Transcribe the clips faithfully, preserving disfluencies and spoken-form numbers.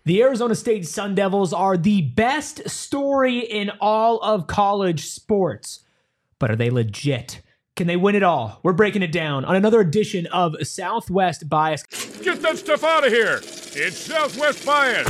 The Arizona State Sun Devils are the best story in all of college sports. But are they legit? Can they win it all? We're breaking it down on another edition of Southwest Bias. Get that stuff out of here. It's Southwest Bias.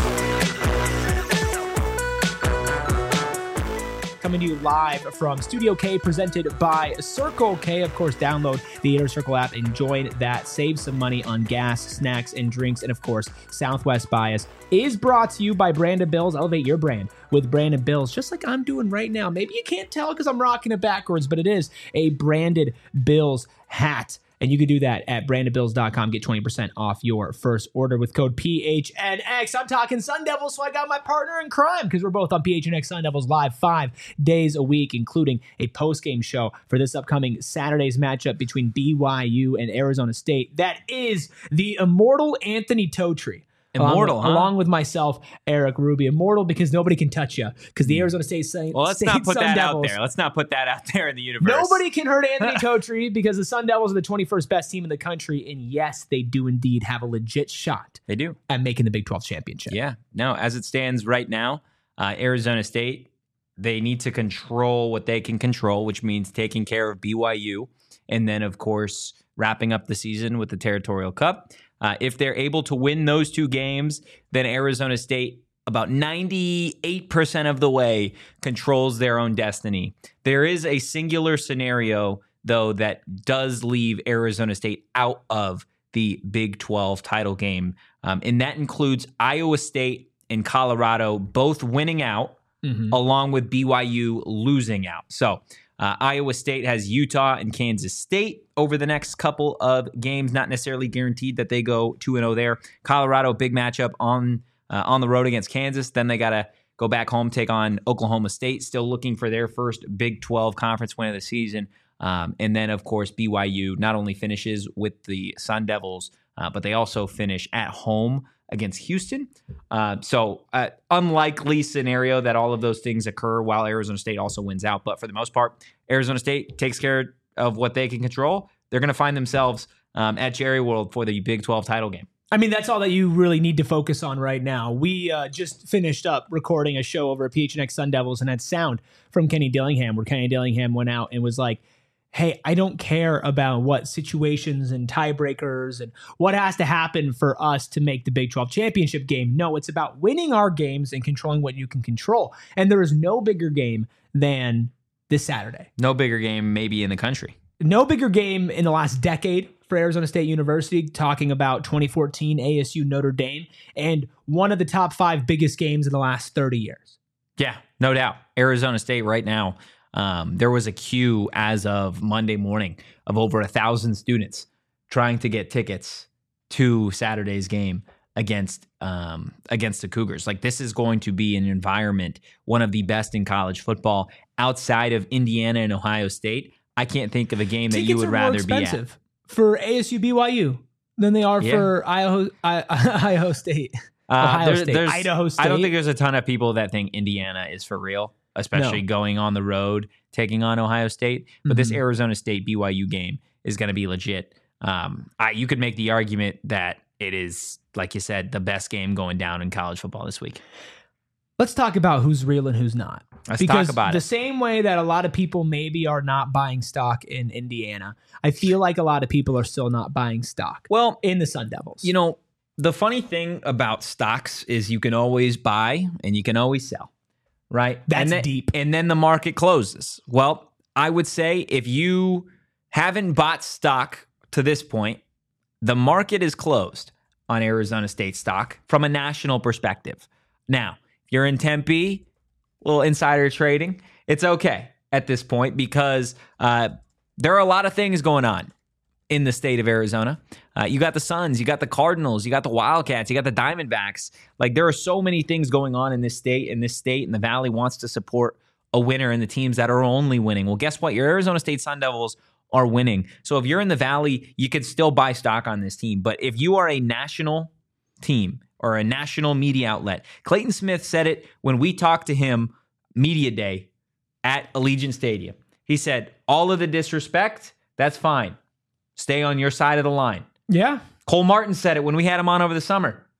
Coming to you live from Studio K, presented by Circle K. Of course, download the Inner Circle app and join that. Save some money on gas, snacks, and drinks. And of course, Southwest Bias is brought to you by Brandon Bills. Elevate your brand with Brandon Bills, just like I'm doing right now. Maybe you can't tell because I'm rocking it backwards, but it is a branded Bills hat. And you can do that at brandon bills dot com. Get twenty percent off your first order with code P H N X. I'm talking Sun Devils, so I got my partner in crime because we're both on P H N X Sun Devils Live five days a week, including a post-game show for this upcoming Saturday's matchup between B Y U and Arizona State. That is the immortal Anthony Totri. Immortal, along, huh? along with myself, Eric Ruby. Immortal because nobody can touch you because the Arizona State Sun Well, let's State not put Sun that Devils, out there. Let's not put that out there in the universe. Nobody can hurt Anthony Totri because the Sun Devils are the twenty-first best team in the country. And yes, they do indeed have a legit shot They do. at making the Big twelve championship. Yeah. No, as it stands right now, uh, Arizona State, they need to control what they can control, which means taking care of B Y U. And then, of course, wrapping up the season with the Territorial Cup. Uh, if they're able to win those two games, then Arizona State, about ninety-eight percent of the way, controls their own destiny. There is a singular scenario, though, that does leave Arizona State out of the Big twelve title game, um, and that includes Iowa State and Colorado both winning out, mm-hmm. along with B Y U losing out. So uh, Iowa State has Utah and Kansas State over the next couple of games, not necessarily guaranteed that they go two and oh there. Colorado, big matchup on uh, on the road against Kansas. Then they got to go back home, take on Oklahoma State, still looking for their first Big twelve conference win of the season. Um, and then, of course, B Y U not only finishes with the Sun Devils, uh, but they also finish at home against Houston. Uh, so uh, unlikely scenario that all of those things occur while Arizona State also wins out. But for the most part, Arizona State takes care of what they can control. They're going to find themselves um, at Jerry World for the Big twelve title game. I mean, that's all that you really need to focus on right now. We uh, just finished up recording a show over at P H N X Sun Devils and had sound from Kenny Dillingham, where Kenny Dillingham went out and was like, hey, I don't care about what situations and tiebreakers and what has to happen for us to make the Big twelve championship game. No, it's about winning our games and controlling what you can control. And there is no bigger game than this Saturday. No bigger game maybe in the country. No bigger game in the last decade for Arizona State University, talking about twenty fourteen A S U Notre Dame, and one of the top five biggest games in the last thirty years. Yeah, no doubt. Arizona State right now, um, there was a queue as of Monday morning of over a thousand students trying to get tickets to Saturday's game against um, against the Cougars. Like, this is going to be an environment, one of the best in college football outside of Indiana and Ohio State. I can't think of a game that Tickets you would are rather more expensive be at. For A S U B Y U than they are Yeah. for Idaho, I, Idaho State. Uh, Ohio there- State. there's- Idaho State. I don't think there's a ton of people that think Indiana is for real, especially No. going on the road, taking on Ohio State. But this Mhm. Arizona State B Y U game is going to be legit. Um, I, you could make the argument that it is, like you said, the best game going down in college football this week. Let's talk about who's real and who's not. Let's because talk about the it. same way that a lot of people maybe are not buying stock in Indiana, I feel like a lot of people are still not buying stock Well, in the Sun Devils. you know, the funny thing about stocks is you can always buy and you can always sell, right? That's and then, deep. And then the market closes. Well, I would say if you haven't bought stock to this point, the market is closed on Arizona State stock from a national perspective. Now, if you're in Tempe, a little insider trading, it's okay at this point because uh, there are a lot of things going on in the state of Arizona. Uh, you got the Suns, you got the Cardinals, you got the Wildcats, you got the Diamondbacks. Like, there are so many things going on in this state, and this state and the Valley wants to support a winner and the teams that are only winning. Well, guess what? Your Arizona State Sun Devils are winning. So if you're in the Valley, you can still buy stock on this team. But if you are a national team or a national media outlet, Clayton Smith said it when we talked to him media day at Allegiant Stadium. He said, all of the disrespect, that's fine. Stay on your side of the line. yeah. Cole Martin said it when we had him on over the summer.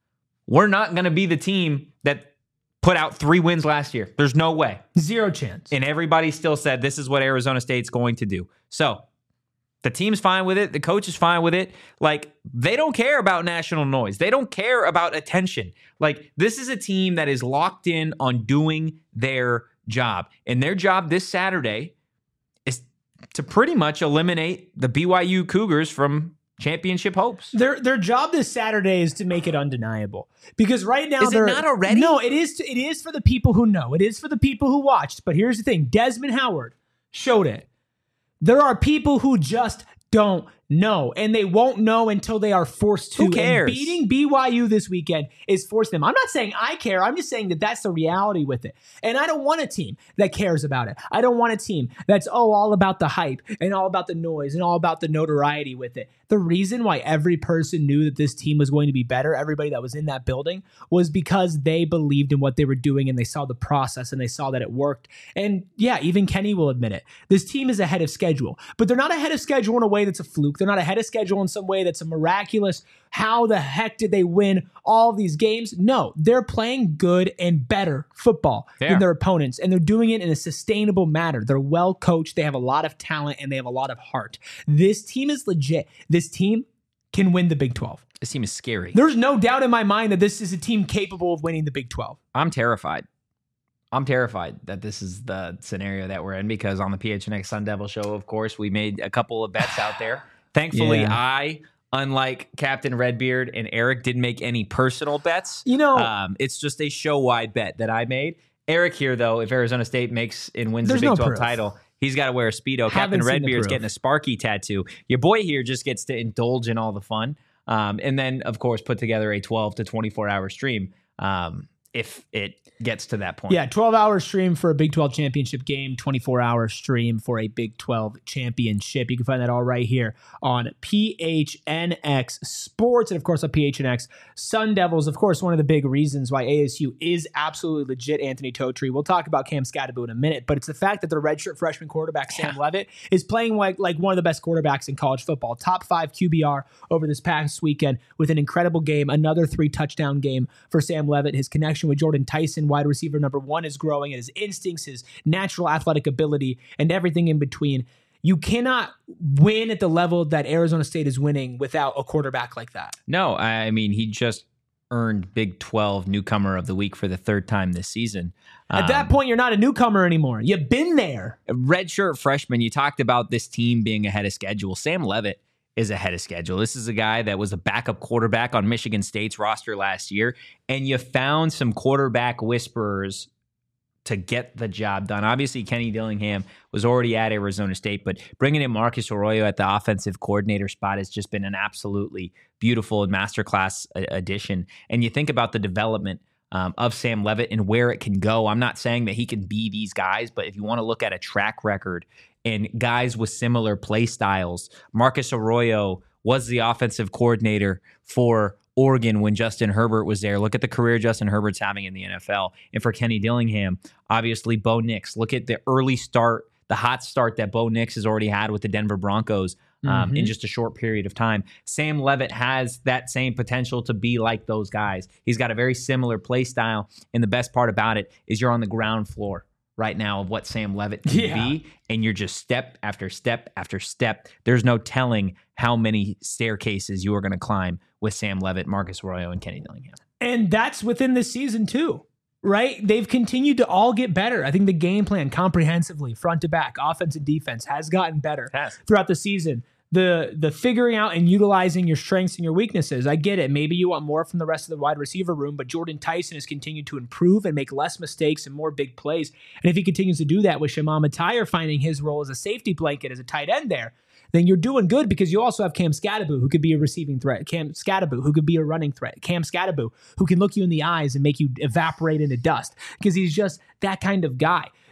we're not going to be the team that put out three wins last year. There's no way. Zero chance. And everybody still said this is what Arizona State's going to do. So the team's fine with it. The coach is fine with it. Like, they don't care about national noise. They don't care about attention. Like, this is a team that is locked in on doing their job. And their job this Saturday is to pretty much eliminate the B Y U Cougars from championship hopes. Their their job this Saturday is to make it undeniable. Because right now is they're it not already? No, it is. It is for the people who know. It is for the people who watched. But here's the thing: Desmond Howard showed it. There are people who just don't know, and they won't know until they are forced to. Who cares? And beating B Y U this weekend is forcing them. I'm not saying I care. I'm just saying that that's the reality with it. And I don't want a team that cares about it. I don't want a team that's, oh, all about the hype and all about the noise and all about the notoriety with it. The reason why every person knew that this team was going to be better, everybody that was in that building, was because they believed in what they were doing and they saw the process and they saw that it worked. And yeah, even Kenny will admit it. This team is ahead of schedule, but they're not ahead of schedule in a way that's a fluke. They're not ahead of schedule in some way that's a miraculous, how the heck did they win all these games? No, they're playing good and better football They than are. their opponents, and they're doing it in a sustainable manner. They're well coached. They have a lot of talent, and they have a lot of heart. This team is legit. This team can win the Big twelve. This team is scary. There's no doubt in my mind that this is a team capable of winning the Big twelve. I'm terrified. I'm terrified that this is the scenario that we're in, because on the P H N X Sun Devil show, of course, we made a couple of bets out there. Thankfully, Yeah. I, unlike Captain Redbeard and Eric, didn't make any personal bets. You know, Um, it's just a show-wide bet that I made. Eric here, though, if Arizona State makes and wins the There's Big no twelve proof. title, he's got to wear a Speedo. Haven't Captain seen the Redbeard's proof. getting a Sparky tattoo. Your boy here just gets to indulge in all the fun. Um, and then, of course, put together a twelve to twenty-four hour stream um, if it gets to that point. yeah, twelve hour stream for a Big twelve championship game, twenty-four hour stream for a Big twelve championship. You can find that all right here on P H N X Sports and, of course, on P H N X Sun Devils. Of course, one of the big reasons why A S U is absolutely legit, Anthony Totri. We'll talk about Cam Scadaboo in a minute, but it's the fact that their redshirt freshman quarterback, Sam Yeah. Levitt, is playing like, like one of the best quarterbacks in college football. Top five Q B R over this past weekend with an incredible game, another three touchdown game for Sam Levitt. His connection with Jordan Tyson, wide receiver number one, is growing, and his instincts, his natural athletic ability, and everything in between. You cannot win at the level that Arizona State is winning without a quarterback like that. No, I mean, he just earned Big twelve Newcomer of the Week for the third time this season. At that Um, point, you're not a newcomer anymore. You've been there. redshirt freshman, you talked about this team being ahead of schedule. Sam Levitt is ahead of schedule. This is a guy that was a backup quarterback on Michigan State's roster last year, and you found some quarterback whisperers to get the job done. Obviously, Kenny Dillingham was already at Arizona State, but bringing in Marcus Arroyo at the offensive coordinator spot has just been an absolutely beautiful and masterclass a- addition. And you think about the development um, of Sam Levitt and where it can go. I'm not saying that he can be these guys, but if you want to look at a track record and guys with similar play styles, Marcus Arroyo was the offensive coordinator for Oregon when Justin Herbert was there. Look at the career Justin Herbert's having in the N F L. And for Kenny Dillingham, obviously Bo Nix. Look at the early start, the hot start that Bo Nix has already had with the Denver Broncos um, Mhm. in just a short period of time. Sam Levitt has that same potential to be like those guys. He's got a very similar play style. And the best part about it is you're on the ground floor right now of what Sam Levitt can Yeah. be, and you're just step after step after step. There's no telling how many staircases you are going to climb with Sam Levitt, Marcus Arroyo, and Kenny Dillingham. And that's within this season too, right? They've continued to all get better. I think the game plan comprehensively, front to back, offense and defense, has gotten better Has. throughout the season. The the figuring out and utilizing your strengths and your weaknesses. I get it. Maybe you want more from the rest of the wide receiver room, but Jordan Tyson has continued to improve and make less mistakes and more big plays. And if he continues to do that with Shimon Matire finding his role as a safety blanket, as a tight end there, then you're doing good, because you also have Cam Scadaboo, who could be a receiving threat. Cam Scadaboo, who could be a running threat. Cam Scadaboo, who can look you in the eyes and make you evaporate into dust, because he's just that kind of guy.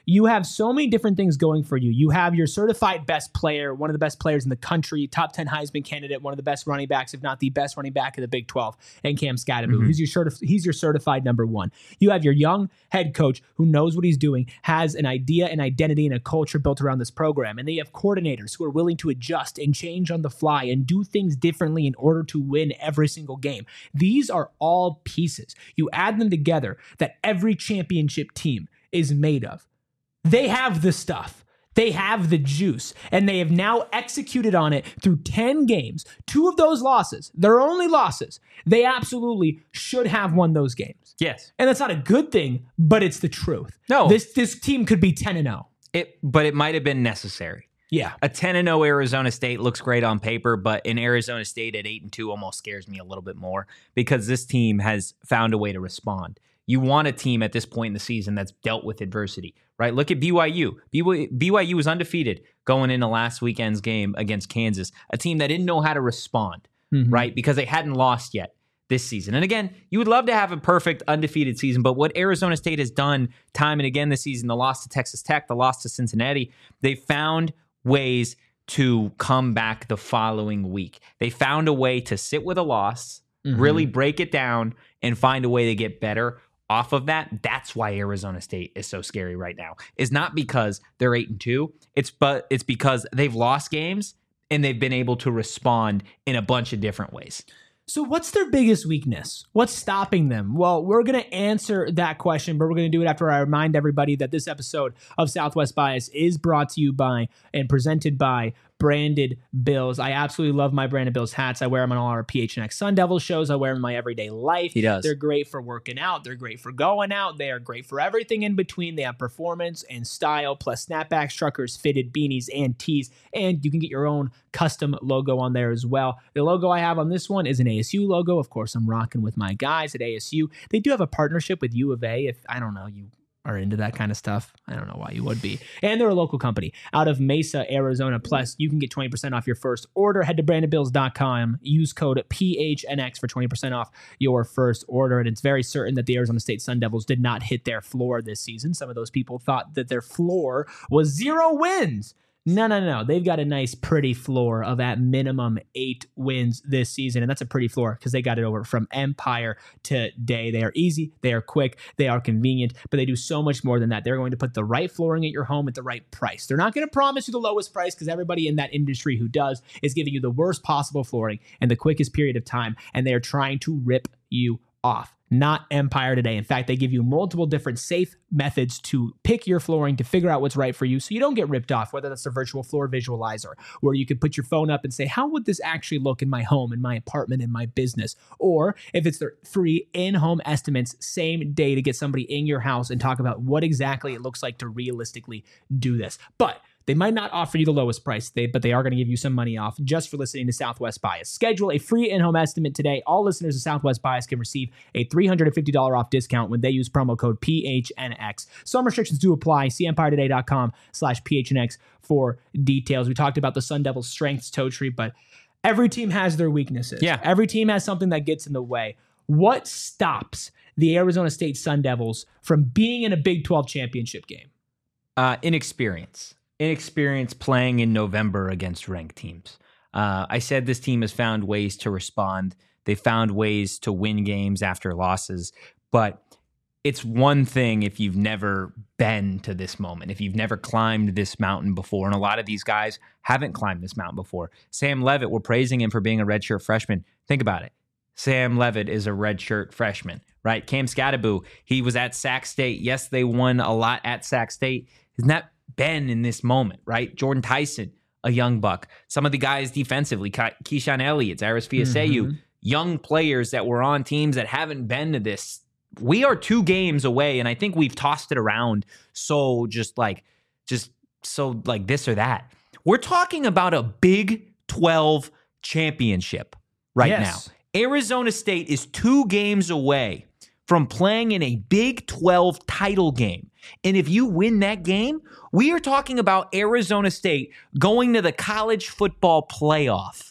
you have so many different things going for you. You have your certified best player, one of the best players in the country, top ten Heisman candidate, one of the best running backs, if not the best running back of the Big twelve, and Cam Scatterbo. Mm-hmm. He's your certif- he's your certified number one. You have your young head coach who knows what he's doing, has an idea, an identity, and a culture built around this program. And then you have coordinators who are willing to adjust and change on the fly and do things differently in order to win every single game. These are all pieces. You add them together that every championship team is made of. They have the stuff. They have the juice, and they have now executed on it through ten games. Two of those losses, their only losses, they absolutely should have won those games. Yes. And that's not a good thing, but it's the truth. No. This this team could be ten and oh. It, but it might have been necessary. Yeah. A ten and oh Arizona State looks great on paper, but in Arizona State at eight and two almost scares me a little bit more because this team has found a way to respond. You want a team at this point in the season that's dealt with adversity, right? Look at B Y U. B Y U was undefeated going into last weekend's game against Kansas, a team that didn't know how to respond, mm-hmm. right? Because they hadn't lost yet this season. And again, you would love to have a perfect undefeated season, but what Arizona State has done time and again this season, the loss to Texas Tech, the loss to Cincinnati, they found ways to come back the following week. They found a way to sit with a loss, mm-hmm. really break it down, and find a way to get better off of that. That's why Arizona State is so scary right now. It's not because they're eight and two. It's but it's because they've lost games and they've been able to respond in a bunch of different ways. So what's their biggest weakness? What's stopping them? Well, we're going to answer that question, but we're going to do it after I remind everybody that this episode of Southwest Bias is brought to you by and presented by Branded Bills. I absolutely love my Branded Bills hats. I wear them on all our P H N X Sun Devils shows. I wear them in my everyday life. He does. They're great for working out. They're great for going out. They are great for everything in between. They have performance and style, plus snapbacks, truckers, fitted beanies, and tees. And you can get your own custom logo on there as well. The logo I have on this one is an A S U logo. Of course, I'm rocking with my guys at A S U. They do have a partnership with U of A. If I don't know, you are into that kind of stuff. I don't know why you would be. And they're a local company out of Mesa, Arizona. Plus, you can get twenty percent off your first order. Head to branded bills dot com. Use code P H N X for twenty percent off your first order. And it's very certain that the Arizona State Sun Devils did not hit their floor this season. Some of those people thought that their floor was zero wins. No, no, no. They've got a nice, pretty floor of at minimum eight wins this season. And that's a pretty floor because they got it over from Empire today. They are easy. They are quick. They are convenient. But they do so much more than that. They're going to put the right flooring at your home at the right price. They're not going to promise you the lowest price because everybody in that industry who does is giving you the worst possible flooring in the quickest period of time. And they are trying to rip you off. Not Empire today. In fact, they give you multiple different safe methods to pick your flooring to figure out what's right for you so you don't get ripped off, whether that's the virtual floor visualizer, where you could put your phone up and say, how would this actually look in my home, in my apartment, in my business? Or if it's their free in-home estimates, same day to get somebody in your house and talk about what exactly it looks like to realistically do this. But they might not offer you the lowest price, they, but they are going to give you some money off just for listening to Southwest Bias. Schedule a free in-home estimate today. All listeners of Southwest Bias can receive a three hundred fifty dollars off discount when they use promo code P H N X. Some restrictions do apply. See empire today dot com slash P H N X for details. We talked about the Sun Devils' strengths, Totri, but every team has their weaknesses. Yeah. Every team has something that gets in the way. What stops the Arizona State Sun Devils from being in a Big twelve championship game? Uh, inexperience. Inexperience playing in November against ranked teams. Uh, I said this team has found ways to respond. They found ways to win games after losses, but it's one thing if you've never been to this moment, if you've never climbed this mountain before, and a lot of these guys haven't climbed this mountain before. Sam Levitt, we're praising him for being a redshirt freshman. Think about it. Sam Levitt is a redshirt freshman, right? Cam Scatterbo, he was at Sac State. Yes, they won a lot at Sac State. Isn't that been in this moment, right? Jordan Tyson, a young buck. Some of the guys defensively, Keyshawn Elliott, Zaris Fiaseyu, mm-hmm. young players that were on teams that haven't been to this. We are two games away, and I think we've tossed it around so just like, just so like this or that. We're talking about a Big twelve championship right yes. now. Arizona State is two games away from playing in a Big twelve title game. And if you win that game, we are talking about Arizona State going to the college football playoff.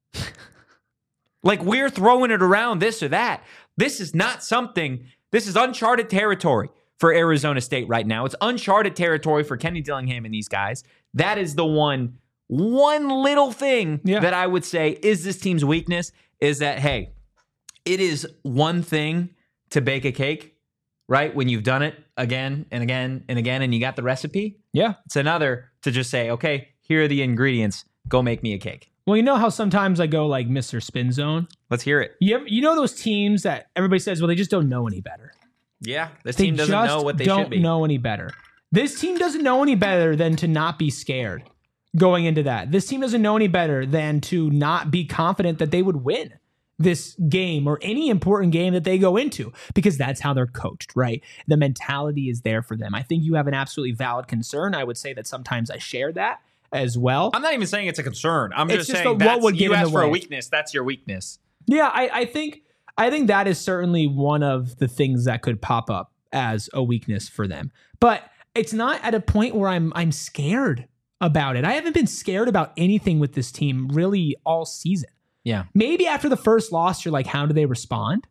Like we're throwing it around this or that. This is not something, this is uncharted territory for Arizona State right now. It's uncharted territory for Kenny Dillingham and these guys. That is the one, one little thing yeah. that I would say is this team's weakness is that, hey, it is one thing to bake a cake, right? When you've done it again and again and again and you got the recipe. Yeah. It's another to just say, okay, here are the ingredients. Go make me a cake. Well, you know how sometimes I go like Mister Spin Zone? Let's hear it. You, ever, you know those teams that everybody says, well, they just don't know any better. Yeah, this They team doesn't just know what they don't should be. know any better. This team doesn't know any better than to not be scared going into that. This team doesn't know any better than to not be confident that they would win this game or any important game that they go into, because that's how they're coached, right? The mentality is there for them. I think you have an absolutely valid concern. I would say that sometimes I share that as well. I'm not even saying it's a concern. I'm It's just, just saying the- what that's, would get you in asked the for a way. weakness. That's your weakness. Yeah, I, I think I think that is certainly one of the things that could pop up as a weakness for them. But it's not at a point where I'm I'm scared about it. I haven't been scared about anything with this team really all season. Yeah. Maybe after the first loss, you're like, how do they respond?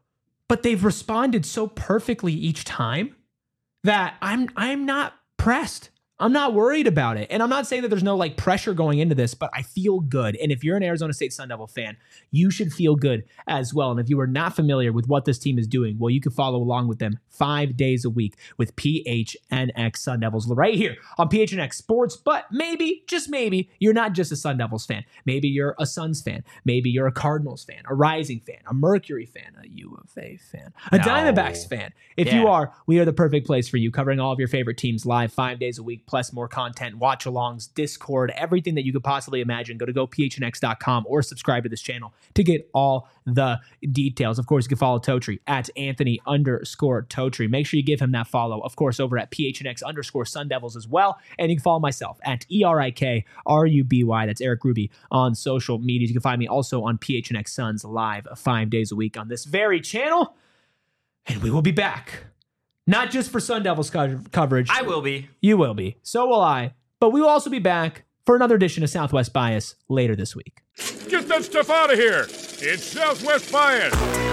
But they've responded so perfectly each time that I'm I'm not pressed. I'm not worried about it. And I'm not saying that there's no like pressure going into this, but I feel good. And if you're an Arizona State Sun Devil fan, you should feel good as well. And if you are not familiar with what this team is doing, well, you can follow along with them five days a week with P H N X Sun Devils right here on P H N X Sports. But maybe, just maybe, you're not just a Sun Devils fan. Maybe you're a Suns fan. Maybe you're a Cardinals fan, a Rising fan, a Mercury fan, a U of A fan, a No. Diamondbacks fan. If Yeah. you are, we are the perfect place for you, covering all of your favorite teams live five days a week, plus more content, watch-alongs, Discord, everything that you could possibly imagine. Go to go P H N X dot com or subscribe to this channel to get all the details. Of course, you can follow Totri at Anthony underscore Totri. Make sure you give him that follow, of course, over at P H N X underscore Sun Devils as well. And you can follow myself at E R I K R U B Y. That's Eric Ruby on social media. You can find me also on P H N X Suns live five days a week on this very channel. And we will be back. Not just for Sun Devils co- coverage. I will be. You will be. So will I. But we will also be back for another edition of Southwest Bias later this week. Get that stuff out of here. It's Southwest Bias.